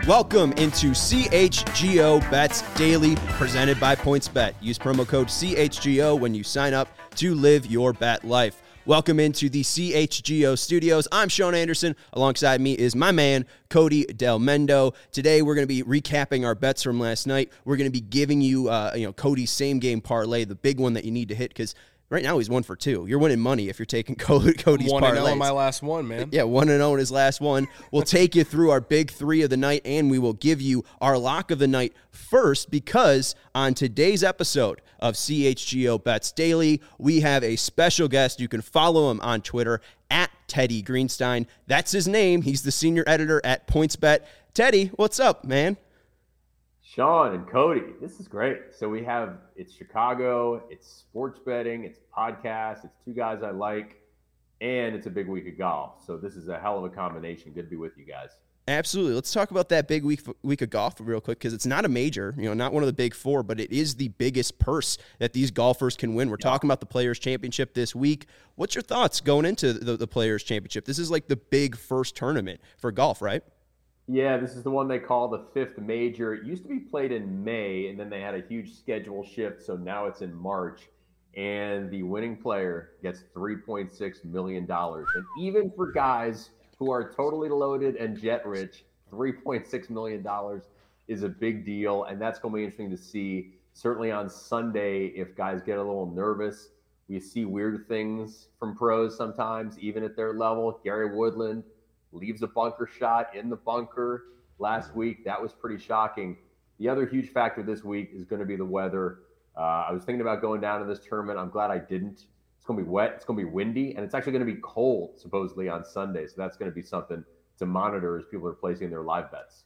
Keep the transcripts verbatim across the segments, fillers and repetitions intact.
Welcome into C H G O Bets Daily, presented by PointsBet. Use promo code C H G O when you sign up to live your bet life. Welcome into the C H G O studios. I'm Sean Anderson. Alongside me is my man, Cody Del Mendo. Today, we're going to be recapping our bets from last night. We're going to be giving you, uh, you know, Cody's same game parlay, the big one that you need to hit, because right now he's one for two. You're winning money if you're taking Cody's parlays. One and zero on my last one, man. Yeah, one and zero in his last one. We'll take you through our big three of the night, and we will give you our lock of the night first, because on today's episode of C H G O Bets Daily, we have a special guest. You can follow him on Twitter at Teddy Greenstein. That's his name. He's the senior editor at PointsBet. Teddy, what's up, man? Sean and Cody, this is great. So we have, it's Chicago, it's sports betting, it's podcasts, it's two guys I like, and it's a big week of golf. So this is a hell of a combination. Good to be with you guys. Absolutely. Let's talk about that big week week of golf real quick, because it's not a major, you know, not one of the big four, but it is the biggest purse that these golfers can win. We're yeah. talking about the Players' Championship this week. What's your thoughts going into the, the Players' Championship? This is like the big first tournament for golf, right? Yeah, this is the one they call the fifth major. It used to be played in May, and then they had a huge schedule shift, so now it's in March. And the winning player gets three point six million dollars. And even for guys who are totally loaded and jet rich, three point six million dollars is a big deal, and that's going to be interesting to see. Certainly on Sunday, if guys get a little nervous, we see weird things from pros sometimes, even at their level. Gary Woodland leaves a bunker shot in the bunker last week. That was pretty shocking. The other huge factor this week is going to be the weather. Uh, I was thinking about going down to this tournament. I'm glad I didn't. It's going to be wet. It's going to be windy, and it's actually going to be cold, supposedly, on Sunday. So that's going to be something to monitor as people are placing their live bets.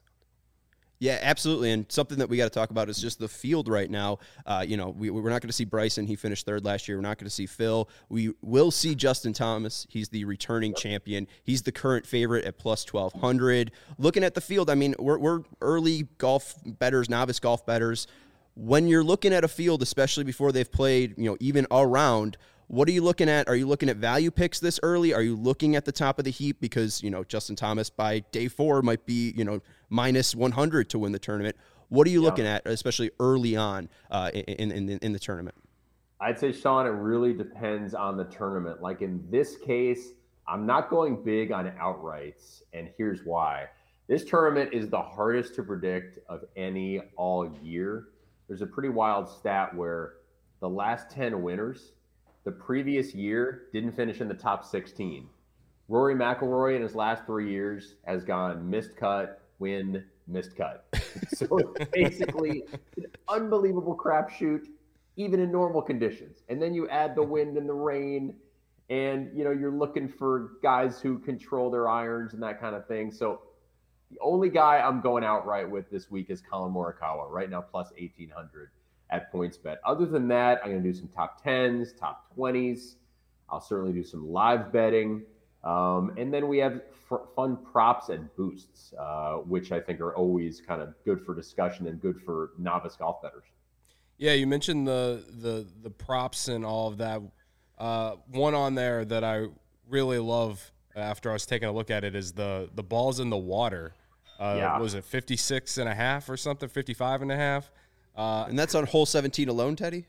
Yeah, absolutely. And something that we got to talk about is just the field right now. Uh, you know, we, we're not going to see Bryson. He finished third last year. We're not going to see Phil. We will see Justin Thomas. He's the returning yep. champion. He's the current favorite at plus twelve hundred. Looking at the field, I mean, we're, we're early golf bettors, novice golf bettors. When you're looking at a field, especially before they've played, you know, even all round, what are you looking at? Are you looking at value picks this early? Are you looking at the top of the heap? Because, you know, Justin Thomas by day four might be, you know, minus one hundred to win the tournament. What are you yeah. looking at, especially early on uh, in, in, in the tournament? I'd say, Sean, it really depends on the tournament. Like in this case, I'm not going big on outrights, and here's why. This tournament is the hardest to predict of any all year. There's a pretty wild stat where the last ten winners the previous year didn't finish in the top sixteen. Rory McIlroy in his last three years has gone missed cut, win, missed cut. So it's basically an unbelievable crapshoot, even in normal conditions. And then you add the wind and the rain, and you know you're looking for guys who control their irons and that kind of thing. So the only guy I'm going outright with this week is Colin Morikawa, right now plus eighteen hundred. At PointsBet. Other than that, I'm going to do some top tens, top twenties. I'll certainly do some live betting. Um, and then we have f- fun props and boosts, uh, which I think are always kind of good for discussion and good for novice golf bettors. Yeah, you mentioned the the the props and all of that. Uh, one on there that I really love after I was taking a look at it is the, the balls in the water. Uh, yeah. Was it fifty-six and a half or something, fifty-five and a half? Uh, and that's on hole seventeen alone, Teddy?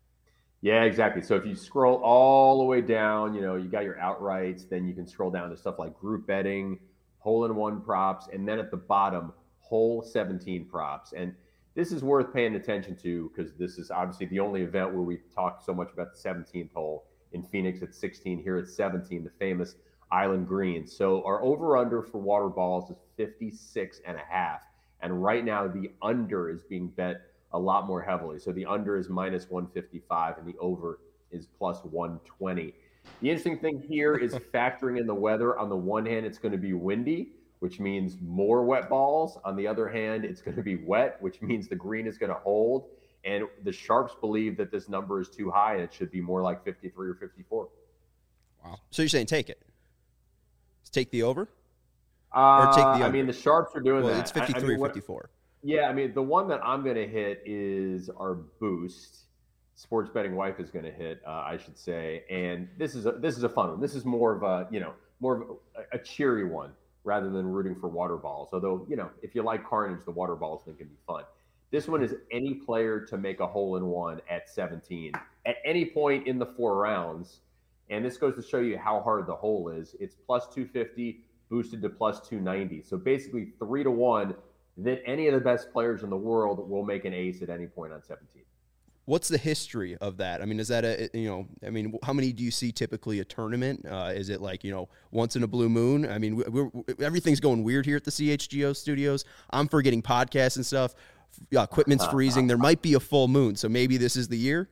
Yeah, exactly. So if you scroll all the way down, you know, you got your outrights, then you can scroll down to stuff like group betting, hole-in-one props, and then at the bottom, hole seventeen props. And this is worth paying attention to because this is obviously the only event where we talk so much about the seventeenth hole in Phoenix at sixteen, here at seventeen, the famous Island Green. So our over-under for water balls is fifty-six and a half. And right now, the under is being bet a lot more heavily. So the under is minus one fifty-five and the over is plus one twenty. The interesting thing here is factoring in the weather. On the one hand, it's going to be windy, which means more wet balls. On the other hand, it's going to be wet, which means the green is going to hold. And the sharps believe that this number is too high and it should be more like fifty-three or fifty-four. Wow. So you're saying take it? Take the over? Uh, or take the under? I mean, the sharps are doing well, that. It's fifty-three I, I mean, or fifty-four. Yeah, I mean, the one that I'm going to hit is our boost. Sports Betting Wife is going to hit, uh, I should say. And this is a, this is a fun one. This is more of a, you know, more of a, a cheery one. rather than rooting for water balls. Although, you know, if you like carnage, the water balls thing can be fun. This one is any player to make a hole in one at seventeen at any point in the four rounds. And this goes to show you how hard the hole is. It's plus two fifty boosted to plus two ninety. So basically three to one that any of the best players in the world will make an ace at any point on seventeen. What's the history of that? I mean, is that a, you know, I mean, how many do you see typically a tournament? Uh, is it like, you know, once in a blue moon? I mean, we're, we're, everything's going weird here at the C H G O studios. I'm forgetting podcasts and stuff. Yeah, equipment's freezing. There might be a full moon. So maybe this is the year.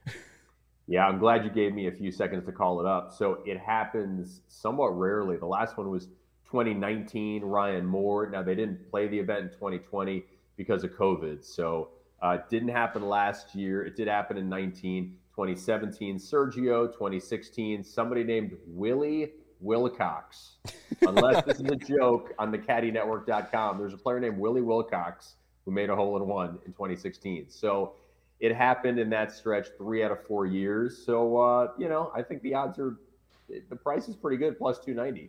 Yeah, I'm glad you gave me a few seconds to call it up. So it happens somewhat rarely. The last one was twenty nineteen, Ryan Moore. Now, they didn't play the event in twenty twenty because of COVID. So Uh, it didn't happen last year. It did happen in nineteen, twenty seventeen, Sergio, twenty sixteen, somebody named Willie Wilcox. Unless this is a joke on the caddy network dot com, there's a player named Willie Wilcox who made a hole in one in twenty sixteen. So it happened in that stretch three out of four years. So, uh, you know, I think the odds are, the price is pretty good, plus two ninety.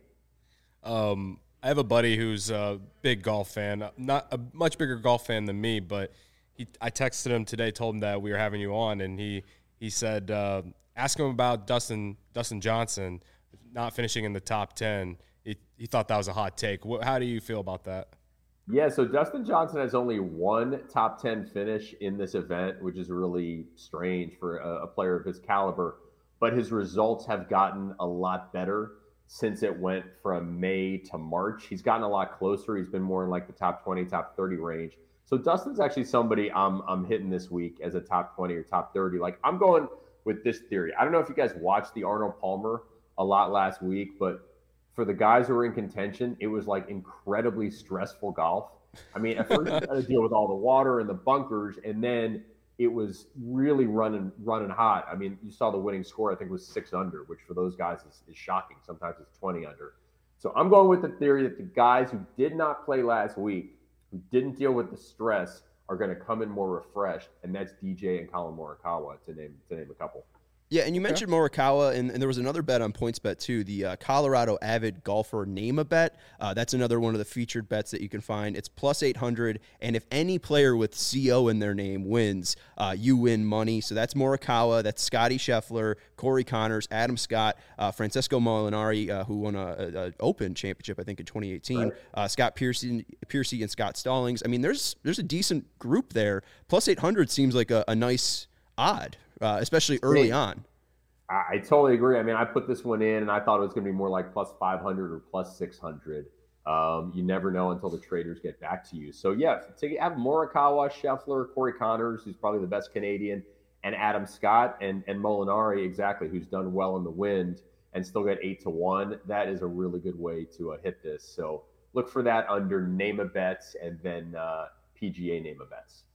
Um, I have a buddy who's a big golf fan, not a much bigger golf fan than me, but He, I texted him today, told him that we were having you on, and he he said, uh, ask him about Dustin Dustin Johnson not finishing in the top ten. He, he thought that was a hot take. What, how do you feel about that? Yeah, so Dustin Johnson has only one top ten finish in this event, which is really strange for a, a player of his caliber. But his results have gotten a lot better since it went from May to March. He's gotten a lot closer. He's been more in like the top twenty, top thirty range. So Dustin's actually somebody I'm I'm hitting this week as a top twenty or top thirty. Like, I'm going with this theory. I don't know if you guys watched the Arnold Palmer a lot last week, but for the guys who were in contention, it was like incredibly stressful golf. I mean, at first you got to deal with all the water and the bunkers, and then it was really running running hot. I mean, you saw the winning score, I think, was six under, which for those guys is, is shocking. Sometimes it's twenty under. So I'm going with the theory that the guys who did not play last week, who didn't deal with the stress, are going to come in more refreshed, and that's D J and Colin Morikawa, to name to name a couple. Yeah, and you mentioned Morikawa, and, and there was another bet on PointsBet too, the uh, Colorado Avid Golfer Name-A-Bet. Uh, that's another one of the featured bets that you can find. It's plus eight hundred, and if any player with C O in their name wins, uh, you win money. So that's Morikawa, that's Scotty Scheffler, Corey Connors, Adam Scott, uh, Francesco Molinari, uh, who won an Open championship, I think, in twenty eighteen, right. uh, Scott Piercy, Piercy and Scott Stallings. I mean, there's there's a decent group there. Plus eight hundred seems like a, a nice odd. Uh, especially early on. I, I totally agree. I mean, I put this one in, and I thought it was going to be more like plus five hundred or plus six hundred. Um, you never know until the traders get back to you. So, yeah, to have Morikawa, Scheffler, Corey Connors, who's probably the best Canadian, and Adam Scott, and, and Molinari, exactly, who's done well in the wind and still got eight to one, that is a really good way to uh, hit this. So look for that under Name-A-Bets and then uh, P G A Name-A-Bets.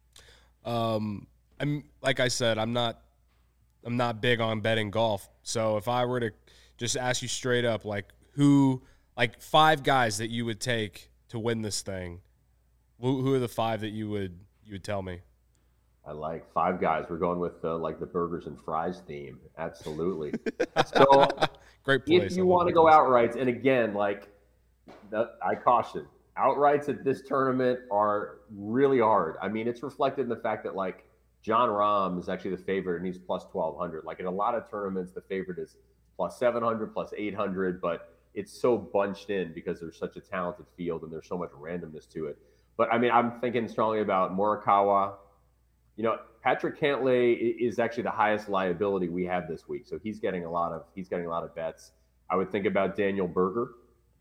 Um. I'm like I said, I'm not I'm not big on betting golf. So if I were to just ask you straight up, like who, like five guys that you would take to win this thing, who, who are the five that you would you would tell me? I like five guys. We're going with uh, like the burgers and fries theme. Absolutely. So great place. If you want to go outrights, and again, like the, I caution, outrights at this tournament are really hard. I mean, it's reflected in the fact that like John Rahm is actually the favorite, and he's plus twelve hundred. Like in a lot of tournaments, the favorite is plus seven hundred, plus eight hundred, but it's so bunched in because there's such a talented field and there's so much randomness to it. But I mean, I'm thinking strongly about Morikawa. You know, Patrick Cantlay is actually the highest liability we have this week, so he's getting a lot of he's getting a lot of bets. I would think about Daniel Berger,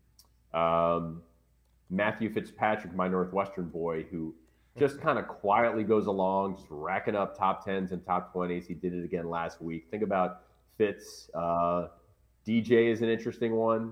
um, Matthew Fitzpatrick, my Northwestern boy, who just kind of quietly goes along, just racking up top tens and top twenties. He did it again last week. Think about Fitz. Uh, D J is an interesting one.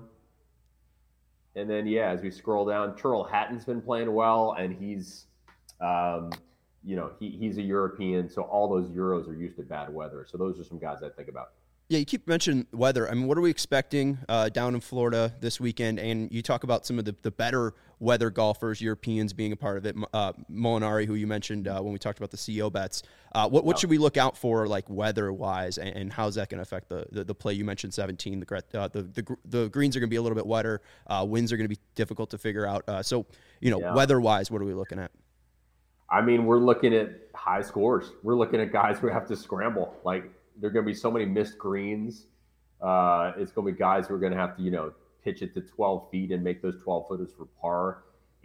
And then, yeah, as we scroll down, Tyrrell Hatton's been playing well, and he's, um, you know, he, he's a European, so all those Euros are used to bad weather. So those are some guys I think about. Yeah, you keep mentioning weather. I mean, what are we expecting uh, down in Florida this weekend? And you talk about some of the, the better weather golfers, Europeans being a part of it. Uh, Molinari, who you mentioned uh, when we talked about the C E O bets. Uh, what what should we look out for, like weather-wise, and, and how's that going to affect the, the the play? You mentioned seventeen. The uh, the, the the greens are going to be a little bit wetter. Uh, winds are going to be difficult to figure out. Uh, so, you know, yeah. weather-wise, what are we looking at? I mean, we're looking at high scores. We're looking at guys who have to scramble. Like, there are going to be so many missed greens. Uh, it's going to be guys who are going to have to, you know, pitch it to twelve feet and make those twelve footers for par.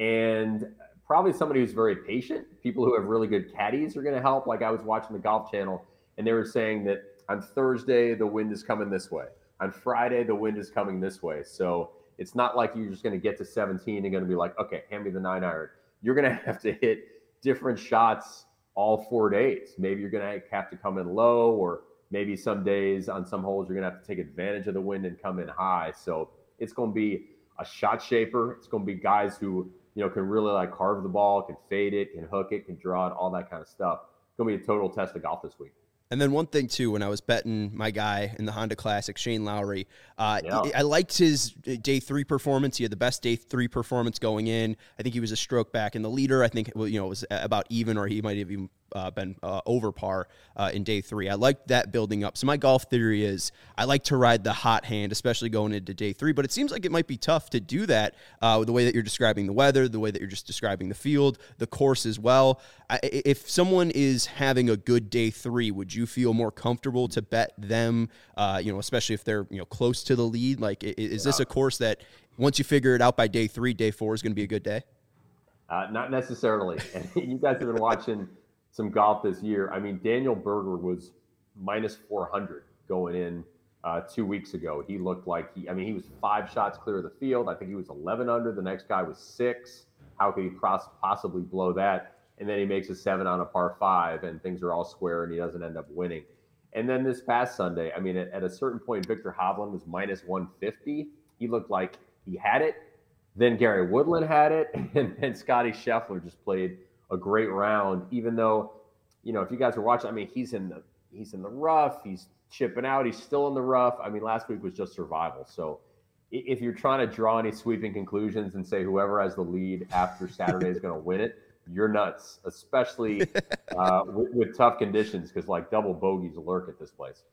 And probably somebody who's very patient. People who have really good caddies are going to help. Like, I was watching the Golf Channel, and they were saying that on Thursday, the wind is coming this way. On Friday, the wind is coming this way. So it's not like you're just going to get to seventeen and going to be like, okay, hand me the nine iron. You're going to have to hit different shots all four days. Maybe you're going to have to come in low, or maybe some days on some holes you're going to have to take advantage of the wind and come in high. So it's going to be a shot shaper. It's going to be guys who, you know, can really like carve the ball, can fade it, can hook it, can draw it, all that kind of stuff. It's going to be a total test of golf this week. And then one thing, too, when I was betting my guy in the Honda Classic, Shane Lowry, uh, yeah. I liked his day three performance. He had the best day three performance going in. I think he was a stroke back in the leader. I think, well, you know, it was about even, or he might have even uh, been uh, over par uh, in day three. I liked that building up. So my golf theory is I like to ride the hot hand, especially going into day three. But it seems like it might be tough to do that uh, with the way that you're describing the weather, the way that you're just describing the field, the course as well. I, if someone is having a good day three, would you feel more comfortable to bet them, uh, you know, especially if they're, you know, close to the lead? Like, is, is this a course that once you figure it out by day three, day four is going to be a good day? Uh, not necessarily. And you guys have been watching some golf this year. I mean, Daniel Berger was minus four hundred going in uh, two weeks ago. He looked like he, I mean, he was five shots clear of the field. I think he was eleven under. The next guy was six. How could he possibly blow that? And then he makes a seven on a par five, and things are all square, and he doesn't end up winning. And then this past Sunday, I mean, at, at a certain point, Victor Hovland was minus one fifty. He looked like he had it. Then Gary Woodland had it, and then Scotty Scheffler just played a great round. Even though, you know, if you guys are watching, I mean, he's in the he's in the rough, he's chipping out, he's still in the rough. I mean, last week was just survival. So if you're trying to draw any sweeping conclusions and say whoever has the lead after Saturday is going to win it, you're nuts, especially uh, with, with tough conditions, because like double bogeys lurk at this place.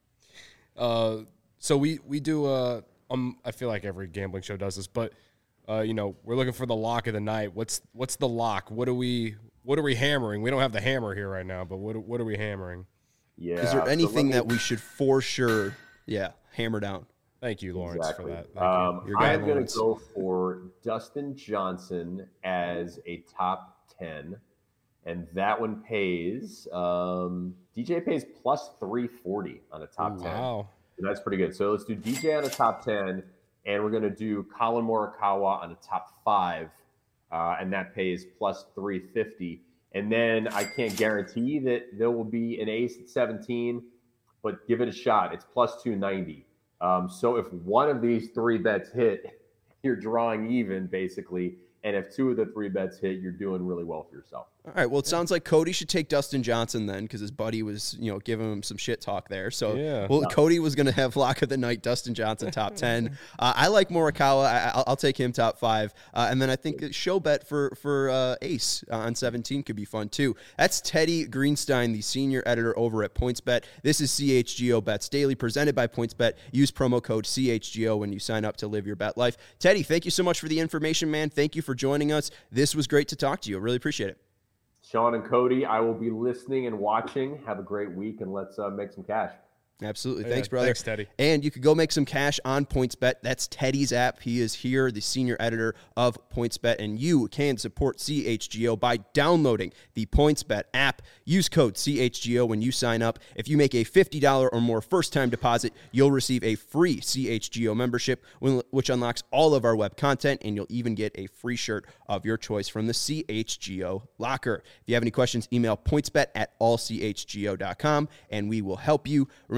Uh, so we we do. Uh, um, I feel like every gambling show does this, but uh, you know, we're looking for the lock of the night. What's what's the lock? What are we what are we hammering? We don't have the hammer here right now, but what what are we hammering? Yeah. Is there anything so me, that we should for sure, yeah, hammer down? Thank you, Lawrence, exactly. for that. Thank um, you. I'm going to go for Dustin Johnson as a top ten, and that one pays. Um, D J pays plus three forty on a top Ooh, ten. Wow, and that's pretty good. So let's do D J on a top ten, and we're going to do Colin Morikawa on a top five, uh, and that pays plus three fifty. And then I can't guarantee that there will be an ace at seventeen, but give it a shot. It's plus two ninety. Um, so if one of these three bets hit, you're drawing even basically. And if two of the three bets hit, you're doing really well for yourself. All right. Well, it sounds like Cody should take Dustin Johnson then, because his buddy was, you know, giving him some shit talk there. So, yeah. well, Yeah. Cody was going to have lock of the night, Dustin Johnson top ten. Uh, I like Morikawa. I, I'll, I'll take him top five. Uh, and then I think show bet for for uh, Ace on seventeen could be fun too. That's Teddy Greenstein, the senior editor over at PointsBet. This is C H G O Bets Daily, presented by PointsBet. Use promo code C H G O when you sign up to live your bet life. Teddy, thank you so much for the information, man. Thank you for joining us. This was great to talk to you. I really appreciate it. Sean and Cody, I will be listening and watching. Have a great week, and let's uh, make some cash. Absolutely. Yeah, Thanks, brother. thanks, Teddy. And you could go make some cash on PointsBet. That's Teddy's app. He is here, the senior editor of PointsBet, and you can support C H G O by downloading the PointsBet app. Use code C H G O when you sign up. If you make a fifty dollars or more first-time deposit, you'll receive a free C H G O membership, which unlocks all of our web content, and you'll even get a free shirt of your choice from the C H G O locker. If you have any questions, email pointsbet at all c h g o dot com, and we will help you. Remember,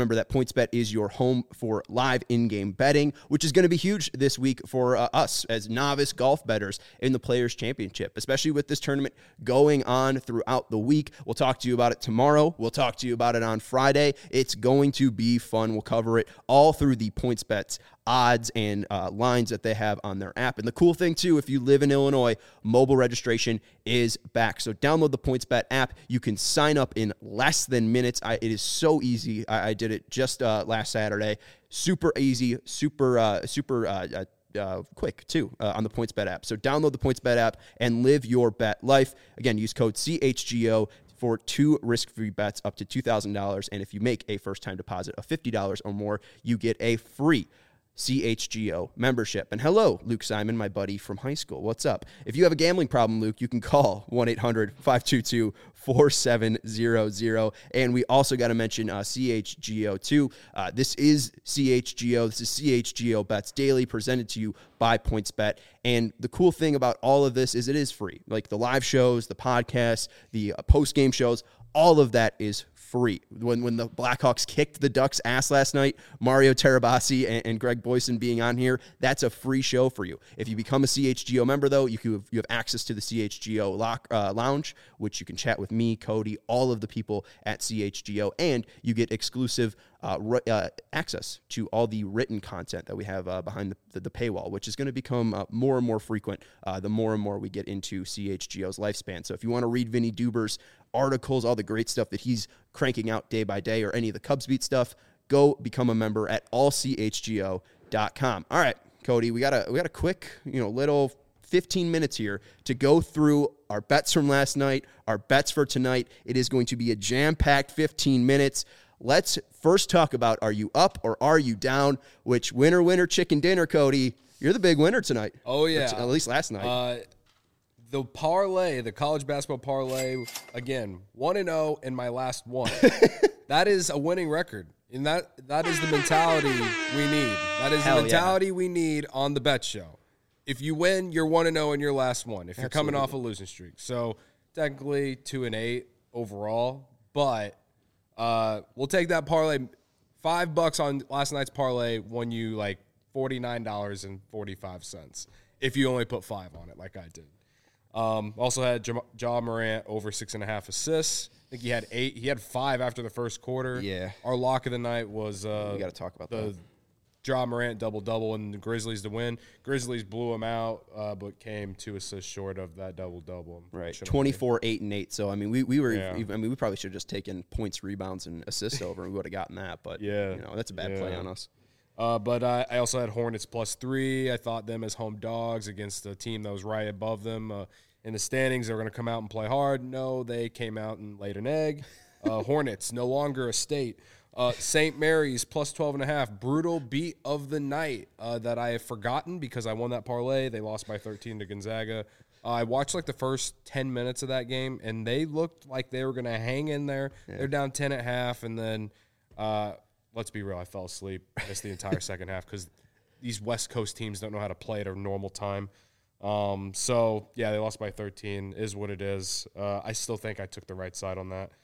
Remember that PointsBet is your home for live in-game betting, which is going to be huge this week for uh, us as novice golf bettors in the Players Championship, especially with this tournament going on throughout the week. We'll talk to you about it tomorrow. We'll talk to you about it on Friday. It's going to be fun. We'll cover it all through the PointsBet odds and uh, lines that they have on their app. And the cool thing, too, if you live in Illinois, mobile registration is back. So download the PointsBet app. You can sign up in less than minutes. I, it is so easy. I, I did it just uh, last Saturday. Super easy, super, uh, super uh, uh, Uh, quick too uh, on the PointsBet app. So download the PointsBet app and live your bet life. Again, use code C H G O for two risk-free bets up to two thousand dollars. And if you make a first-time deposit of fifty dollars or more, you get a free C H G O membership. And hello, Luke Simon, my buddy from high school. What's up? If you have a gambling problem, Luke, you can call one eight hundred five two two four seven zero zero. And we also got to mention uh, C H G O too. Uh, this is C H G O. This is C H G O Bets Daily, presented to you by PointsBet. And the cool thing about all of this is it is free. Like the live shows, the podcasts, the uh, post-game shows, all of that is free. When when the Blackhawks kicked the Ducks' ass last night, Mario Terabasi and, and Greg Boyson being on here, that's a free show for you. If you become a C H G O member, though, you, can, you have access to the C H G O lock, uh, lounge, which you can chat with me, Cody, all of the people at C H G O, and you get exclusive uh, r- uh, access to all the written content that we have uh, behind the, the, the paywall, which is going to become uh, more and more frequent uh, the more and more we get into C H G O's lifespan. So if you want to read Vinny Duber's articles, all the great stuff that he's cranking out day by day, or any of the Cubs Beat stuff, go become a member at all c h g o dot com. All right, Cody, we got a we got a quick, you know, little fifteen minutes here to go through our bets from last night, our bets for tonight. It is going to be a jam-packed fifteen minutes. Let's first talk about, are you up or are you down? Which winner, winner, chicken dinner, Cody? You're the big winner tonight. Oh, yeah. T- at least last night. Uh, the parlay, the college basketball parlay, again, one and oh in my last one. That is a winning record. And that that is the mentality we need. That is Hell the mentality yeah. we need on the bet show. If you win, you're one and oh in your last one. If you're Absolutely. coming off a losing streak. So technically two and eight overall, but uh, we'll take that parlay. Five bucks on last night's parlay won you like forty-nine dollars and forty-five cents if you only put five on it like I did. Um, also had Ja, Ja Morant over six and a half assists. I think he had eight. He had five after the first quarter. Yeah. Our lock of the night was uh, we got to talk about the that. Ja Morant double-double and the Grizzlies to win. Grizzlies blew him out, uh, but came two assists short of that double-double. Right, twenty-four, eight, and eight. So I mean, we we were. Yeah. I mean, we probably should have just taken points, rebounds, and assists over, and we would have gotten that. But Yeah. you know, that's a bad Yeah. play on us. Uh, but uh, I also had Hornets plus three. I thought them as home dogs against a team that was right above them uh, in the standings. They were going to come out and play hard. No, they came out and laid an egg. Uh, Hornets no longer a state. Uh, Saint Mary's plus twelve and a half. Brutal beat of the night uh, that I have forgotten because I won that parlay. They lost by thirteen to Gonzaga. Uh, I watched like the first ten minutes of that game, and they looked like they were going to hang in there. Yeah. They're down ten at half, and then uh, let's be real, I fell asleep. Missed the entire second half because these West Coast teams don't know how to play at a normal time. Um, so, yeah, they lost by thirteen, is what it is. Uh, I still think I took the right side on that.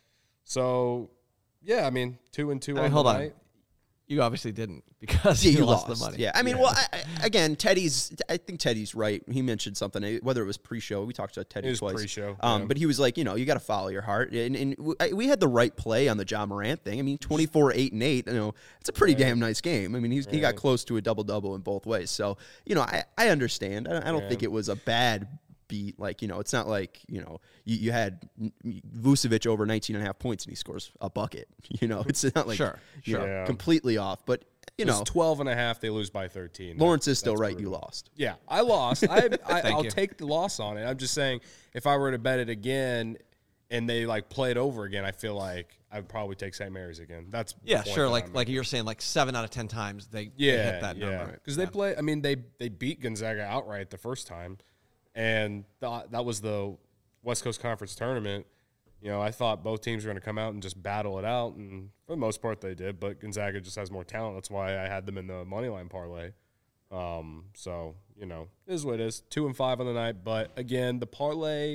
So, yeah, I mean, two and two I mean, on hold the on. night. You obviously didn't because Yeah, you, you lost, lost the money. Yeah, I mean, Yeah. well, I, I, again, Teddy's. I think Teddy's right. He mentioned something, whether it was pre-show. We talked to Teddy It was twice. pre-show, um, yeah. but he was like, you know, you got to follow your heart, and, and w- I- we had the right play on the Ja Morant thing. I mean, twenty-four, eight, and eight. You know, it's a pretty damn nice game. I mean, he's, he got Right. close to a double double in both ways. So, you know, I, I understand. I, I don't Yeah. think it was a bad beat. Like, you know, it's not like, you know, you, you had Vucevic over nineteen and a half points and he scores a bucket. You know, it's not like Sure, you sure. know, Yeah. completely off, but. You It was know, twelve and a half. They lose by thirteen. Lawrence That- is still that's right. You brutal. lost. Yeah, I lost. I, I Thank I'll you. take the loss on it. I'm just saying, if I were to bet it again, and they like play it over again, I feel like I would probably take Saint Mary's again. That's the Yeah, point sure. that Like I'm like making. you're saying, like seven out of ten times they, they yeah, hit that yeah, number. because they play. I mean, they they beat Gonzaga outright the first time, and th- that was the West Coast Conference tournament. You know, I thought both teams were going to come out and just battle it out, and for the most part they did. But Gonzaga just has more talent. That's why I had them in the money line parlay. Um, so you know, it is what it is. Two and five on the night, but again, the parlay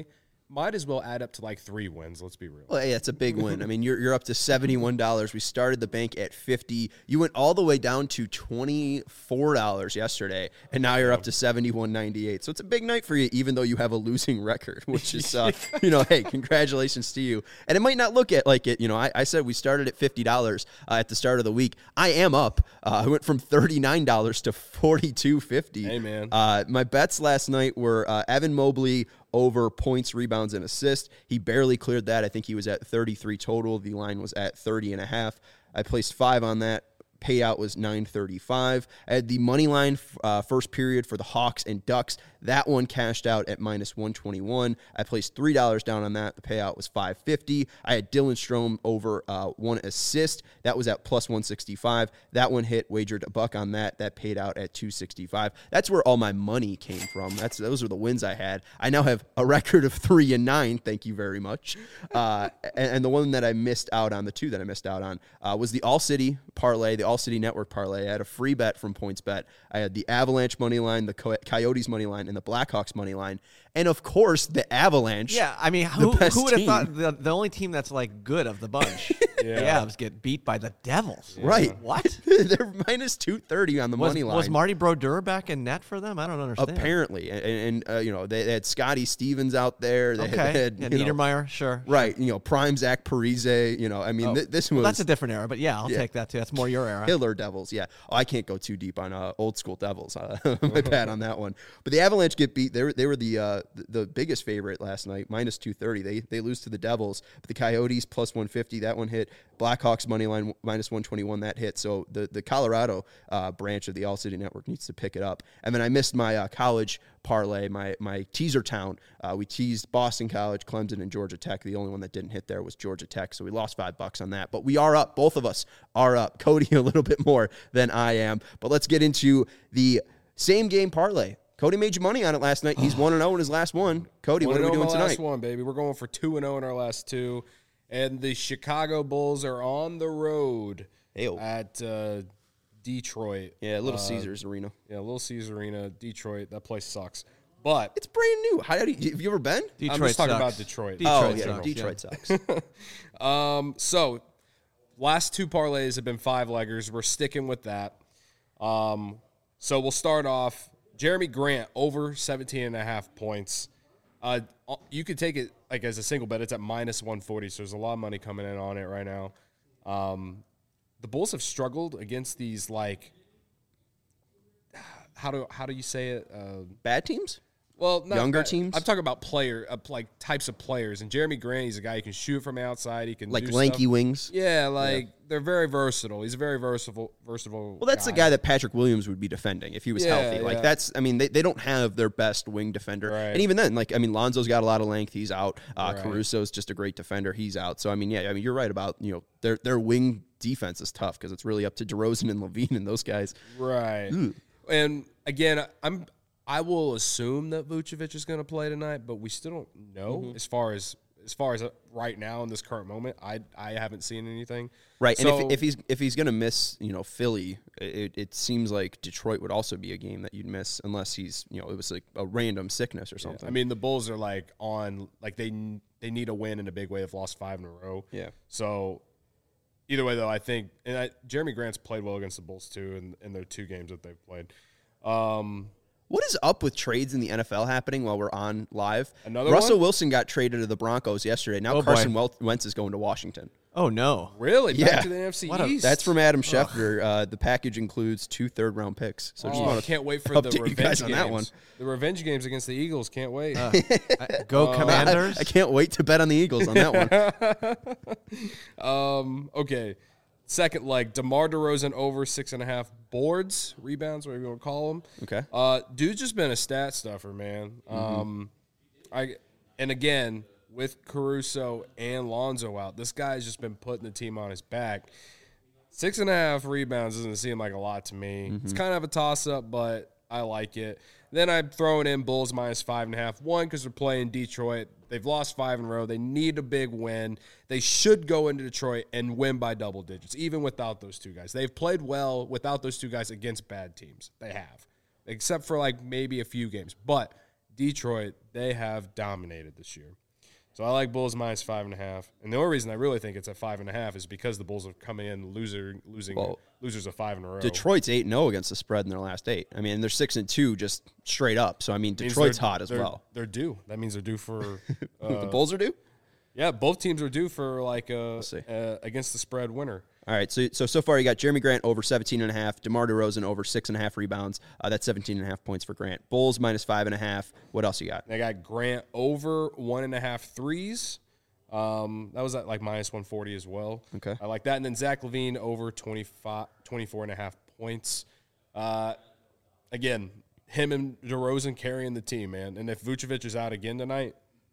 might as well add up to like three wins. Let's be real. Well, yeah, it's a big win. I mean, you're you're up to seventy-one dollars. We started the bank at fifty. You went all the way down to twenty-four dollars yesterday, and now you're up to seventy-one ninety-eight. So it's a big night for you, even though you have a losing record, which is, uh, you know, hey, congratulations to you. And it might not look at like it. You know, I, I said we started at fifty dollars uh, at the start of the week. I am up. Uh, I went from thirty-nine dollars to forty-two fifty. Hey, man. Uh, my bets last night were uh, Evan Mobley over points, rebounds, and assists. He barely cleared that. I think he was at thirty-three total. The line was at thirty and a half. I placed five on that. Payout was nine thirty-five. I had the money line uh, first period for the Hawks and Ducks. That one cashed out at minus one twenty-one. I placed three dollars down on that. The payout was five fifty. I had Dylan Strome over uh, one assist. That was at plus one sixty-five. That one hit, wagered a buck on that. That paid out at two sixty-five. That's where all my money came from. That's Those are the wins I had. I now have a record of three and nine. Thank you very much. Uh, and, and the one that I missed out on, the two that I missed out on, uh, was the All City parlay, the All City Network parlay. I had a free bet from PointsBet. I had the Avalanche money line, the Co- Coyotes money line, and the Blackhawks money line, and of course the Avalanche. Yeah, I mean, who, who would have team. thought the, the only team that's like good of the bunch? Yeah. The Avs get beat by the Devils. Right. What? They're minus two thirty on the Was, money line. was Marty Brodeur back in net for them? I don't understand. Apparently, and, and uh, you know they, they had Scotty Stevens out there. They Okay. had, they had yeah, you know, Niedermeyer, sure. right? You know, prime Zach Parise. You know, I mean, Oh. th- this Well, was that's a different era, but yeah, I'll Yeah. take that too. That's more your era. Killer Devils. Yeah. Oh, I can't go too deep on uh, old school Devils. Uh, my bad on that one. But the Avalanche get beat. They were they were the uh, the, the biggest favorite last night, minus two thirty. They they lose to the Devils. But the Coyotes plus one fifty. That one hit. Blackhawks money line minus one twenty-one. That hit. So the the Colorado uh, branch of the All City Network needs to pick it up. And then I missed my uh, college parlay, my my teaser town. Uh, we teased Boston College, Clemson, and Georgia Tech. The only one that didn't hit there was Georgia Tech, so we lost five bucks on that. But we are up. Both of us are up. Cody a little bit more than I am. But let's get into the same game parlay. Cody made you money on it last night. He's one and zero in his last one. Cody, what are we doing my tonight? Last one, baby. We're going for two and zero in our last two, and the Chicago Bulls are on the road Hey-o. at uh, Detroit. Yeah, Little Uh, Caesars Arena. Yeah, Little Caesars Arena, Detroit. That place sucks. But It's brand new. How did you, have you ever been? Detroit I'm just talking sucks. about Detroit. Detroit oh, yeah, sucks, Detroit yeah. sucks. Um, so last two parlays have been five leggers. We're sticking with that. Um, so we'll start off Jeremy Grant over seventeen and a half points. Uh, you could take it like as a single bet. It's at minus one forty. So there's a lot of money coming in on it right now. Um, the Bulls have struggled against these, like, how do, how do you say it? Uh, Bad teams? Well, not Younger that- teams? I'm talking about player, uh, like types of players. And Jeremy Grant, he's a guy who can shoot from outside. He can Like do lanky stuff. wings? Yeah, like they're very versatile. He's a very versatile, versatile. Well, that's the guy that Patrick Williams would be defending if he was Yeah, healthy. Like, yeah. that's, I mean, they, they don't have their best wing defender. Right. And even then, like, I mean, Lonzo's got a lot of length. He's out. Uh, Right. Caruso's just a great defender. He's out. So, I mean, yeah, I mean, you're right about, you know, their, their wing defense is tough because it's really up to DeRozan and Levine and those guys. right. And again, I'm I will assume that Vucevic is going to play tonight, but we still don't know Mm-hmm. as far as as far as right now in this current moment. I I haven't seen anything. Right. So, and if, if he's if he's going to miss, you know, Philly, it, it seems like Detroit would also be a game that you'd miss unless he's, you know, it was like a random sickness or something. I mean, the Bulls are like on like they they need a win in a big way. They've lost five in a row. Yeah. So either way, though, I think and I, Jeremy Grant's played well against the Bulls too in, in their two games that they've played. Um, What is up with trades in the N F L happening while we're on live? Another Russell one? Wilson got traded to the Broncos yesterday. Now Oh, Carson boy. Wel- Wentz is going to Washington. Oh, no. really? Back Yeah. to the N F C What a- East. That's from Adam Schefter. Uh, the package includes two third round picks. So just Oh, I want to can't wait for the update you revenge guys games. on that one. The revenge games against the Eagles. Can't wait. Uh, Go Commanders. I can't wait to bet on the Eagles on that one. Um, okay. Second leg, DeMar DeRozan over six and a half boards, rebounds, whatever you want to call them. Okay. Uh, dude's just been a stat stuffer, man. Mm-hmm. Um, I and again with Caruso and Lonzo out, this guy's just been putting the team on his back. Six and a half rebounds doesn't seem like a lot to me. Mm-hmm. It's kind of a toss up, but I like it. Then I'm throwing in Bulls minus five and a half. One, because they're playing Detroit. They've lost five in a row. They need a big win. They should go into Detroit and win by double digits, even without those two guys. They've played well without those two guys against bad teams. They have, except for like maybe a few games. But Detroit, they have dominated this year. So I like Bulls minus five and a half. And the only reason I really think it's at five and a half is because the Bulls are coming in loser, losing well, losers of five in a row. Detroit's eight and zero against the spread in their last eight. I mean, they're six and two just straight up. So I mean, Detroit's hot as well. They're due. That means they're due for uh, the Bulls are due. Yeah, both teams are due for like a uh, against the spread winner. All right, so so so far you got Jeremy Grant over seventeen and a half, DeMar DeRozan over six and a half rebounds. Uh, that's seventeen and a half points for Grant. Bulls minus five and a half. What else you got? I got Grant over one and a half threes. Um, that was at like minus one forty as well. Okay, I like that. And then Zach LaVine over twenty-five, twenty-four and a half points. Uh, again, him and DeRozan carrying the team, man. And if Vucevic is out again tonight,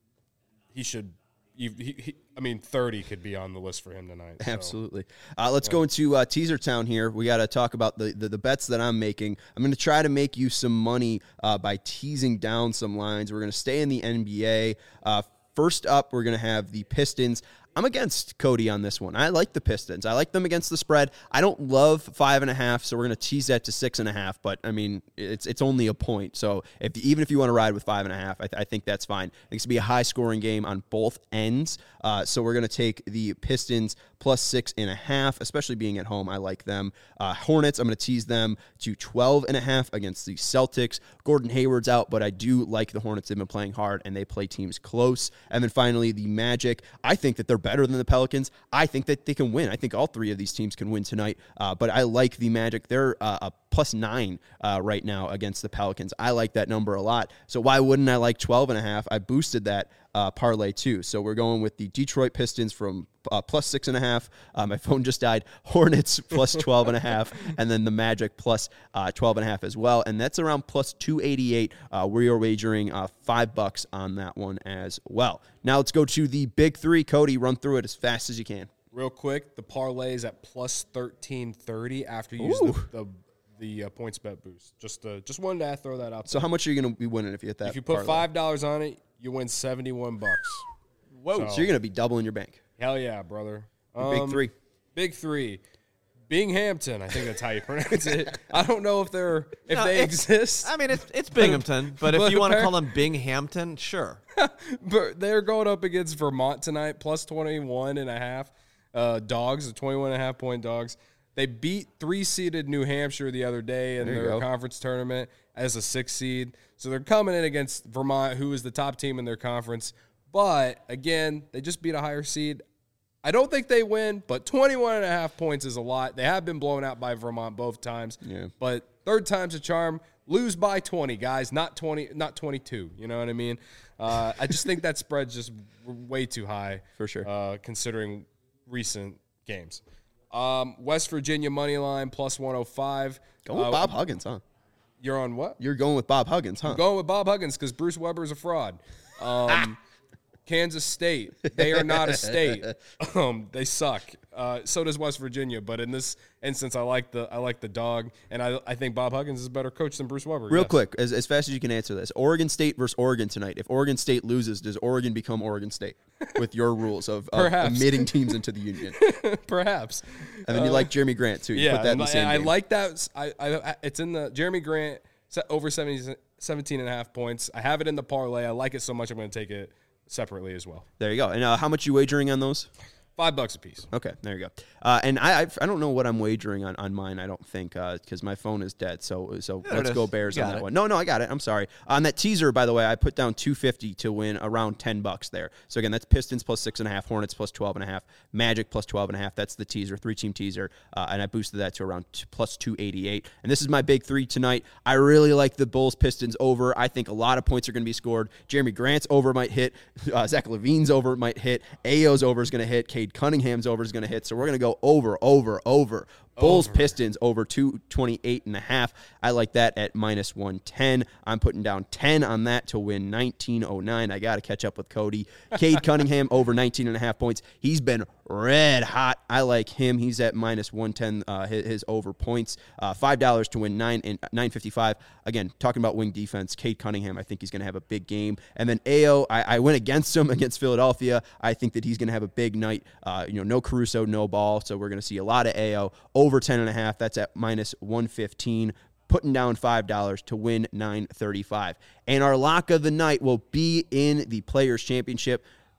he should. He, he, I mean, thirty could be on the list for him tonight. So. Absolutely. Uh, let's yeah. go into uh, Teaser Town here. We got to talk about the, the, the bets that I'm making. I'm going to try to make you some money uh, by teasing down some lines. We're going to stay in the N B A. Uh, first up, we're going to have the Pistons. I'm against Cody on this one. I like the Pistons. I like them against the spread. I don't love five and a half, so we're going to tease that to six and a half. But I mean, it's it's only a point. So if even if you want to ride with five and a half, I, th- I think that's fine. I think it's going to be a high scoring game on both ends. Uh, so we're going to take the Pistons plus six and a half, especially being at home. I like them. Uh, Hornets, I'm going to tease them to twelve and a half against the Celtics. Gordon Hayward's out, but I do like the Hornets. They've been playing hard and they play teams close. And then finally, the Magic. I think that they're better than the Pelicans. I think that they can win. I think all three of these teams can win tonight. Uh, but I like the Magic. They're uh, a plus nine uh, right now against the Pelicans. I like that number a lot. So why wouldn't I like twelve and a half? I boosted that uh, parlay too. So we're going with the Detroit Pistons from uh, plus six and a half. Uh, my phone just died. Hornets plus twelve and a half, and then the Magic plus uh, twelve and a half as well. And that's around plus two eighty-eight. Uh, we are wagering uh, five bucks on that one as well. Now let's go to the big three. Cody, run through it as fast as you can. Real quick, the parlay is at plus thirteen thirty after you use the, the the uh, points bet boost. Just uh, just wanted to throw that out. So there. How much are you going to be winning if you hit that? If you put parlay? five dollars on it, you win seventy one bucks. Whoa! So, so you're going to be doubling your bank. Hell yeah, brother. Um, big three. Big three. Binghamton, I think that's how you pronounce it. I don't know if they're if no, they exist. I mean, it's it's Binghamton, but if but you want to call them Binghamton, sure. But they're going up against Vermont tonight, plus twenty-one and a half. Uh, dogs, the twenty-one and a half point dogs. They beat three-seeded New Hampshire the other day in their go. conference tournament as a six seed. So they're coming in against Vermont, who is the top team in their conference. But, again, they just beat a higher seed. I don't think they win, but twenty-one and a half points is a lot. They have been blown out by Vermont both times. Yeah. But third time's a charm. Lose by twenty, guys, not twenty, not twenty-two. You know what I mean? Uh, I just think that spread's just way too high. For sure. Uh, considering recent games. Um, West Virginia money line plus one oh five. Going with uh, Bob Huggins, huh? You're on what? You're going with Bob Huggins, huh? I'm going with Bob Huggins because Bruce Weber is a fraud. Um, Kansas State, they are not a state. Um, they suck. Uh, so does West Virginia. But in this instance, I like the I like the dog, and I I think Bob Huggins is a better coach than Bruce Weber. Real yes. quick, as, as fast as you can answer this: Oregon State versus Oregon tonight. If Oregon State loses, does Oregon become Oregon State with your rules of, of admitting teams into the union? Perhaps. And then you uh, like Jeremy Grant too. You yeah, put that in the same I, I game. like that. I, I it's in the Jeremy Grant over seventy, seventeen and a half points. I have it in the parlay. I like it so much I'm going to take it separately as well. There you go. And uh, how much you wagering on those? Five bucks a piece. Okay, there you go. Uh, and I I've, I don't know what I'm wagering on, on mine. I don't think because uh, my phone is dead. So so there let's go Bears on that it. one. No, no, I got it. I'm sorry. On that teaser, by the way, I put down two fifty to win around ten bucks there. So again, that's Pistons plus six and a half, Hornets plus twelve and a half, Magic plus twelve and a half. That's the teaser, three team teaser, uh, and I boosted that to around t- plus two eighty-eight. And this is my big three tonight. I really like the Bulls Pistons over. I think a lot of points are going to be scored. Jeremy Grant's over might hit. Uh, Zach LaVine's over might hit. Ayo's over is going to hit. Cade Cunningham's over is going to hit. So we're going to go over, over, over. Bulls over. Pistons over two twenty-eight and a half. I like that at minus one ten. I'm putting down ten on that to win nineteen oh nine. I got to catch up with Cody. Cade Cunningham over nineteen and a half points. He's been red hot. I like him. He's at minus one ten, uh, his, his over points. Uh, five dollars to win nine and nine fifty-five. Again, talking about wing defense, Cade Cunningham, I think he's going to have a big game. And then Ayo, I, I went against him against Philadelphia. I think that he's going to have a big night. Uh, you know, no Caruso, no Ball. So we're going to see a lot of Ayo. Over ten and a half. That's at minus one fifteen. Putting down five dollars to win nine thirty-five. And our lock of the night will be in the Players' Championship.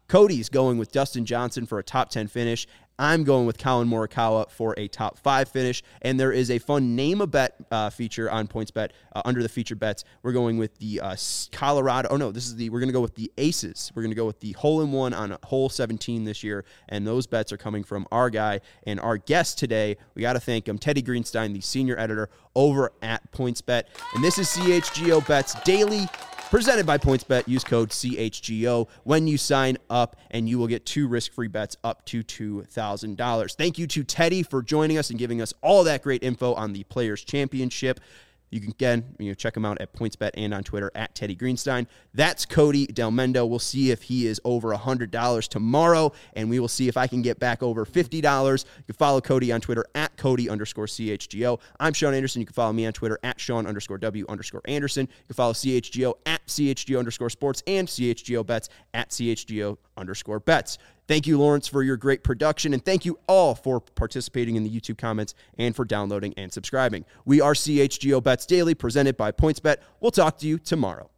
Cody's going with Dustin Johnson for a top ten finish. I'm going with Colin Morikawa for a top five finish. And there is a fun name a bet uh, feature on PointsBet uh, under the featured bets. We're going with the uh, Colorado. Oh, no, this is the, we're going to go with the Aces. We're going to go with the hole in one on hole seventeen this year. And those bets are coming from our guy and our guest today. We got to thank him, Teddy Greenstein, the senior editor over at PointsBet. And this is C H G O Bets Daily, presented by PointsBet. Use code C H G O when you sign up, and you will get two risk-free bets up to two thousand dollars. Thank you to Teddy for joining us and giving us all that great info on the Players' Championship. You can, again, you know, check him out at PointsBet and on Twitter at Teddy Greenstein. That's Cody Delmendo. We'll see if he is over one hundred dollars tomorrow, and we will see if I can get back over fifty dollars. You can follow Cody on Twitter at Cody underscore C H G O. I'm Sean Anderson. You can follow me on Twitter at Sean underscore W underscore Anderson. You can follow C H G O at C H G O underscore sports and C H G O bets at C H G O underscore bets. Thank you, Lawrence, for your great production, and thank you all for participating in the YouTube comments and for downloading and subscribing. We are C H G O Bets Daily, presented by PointsBet. We'll talk to you tomorrow.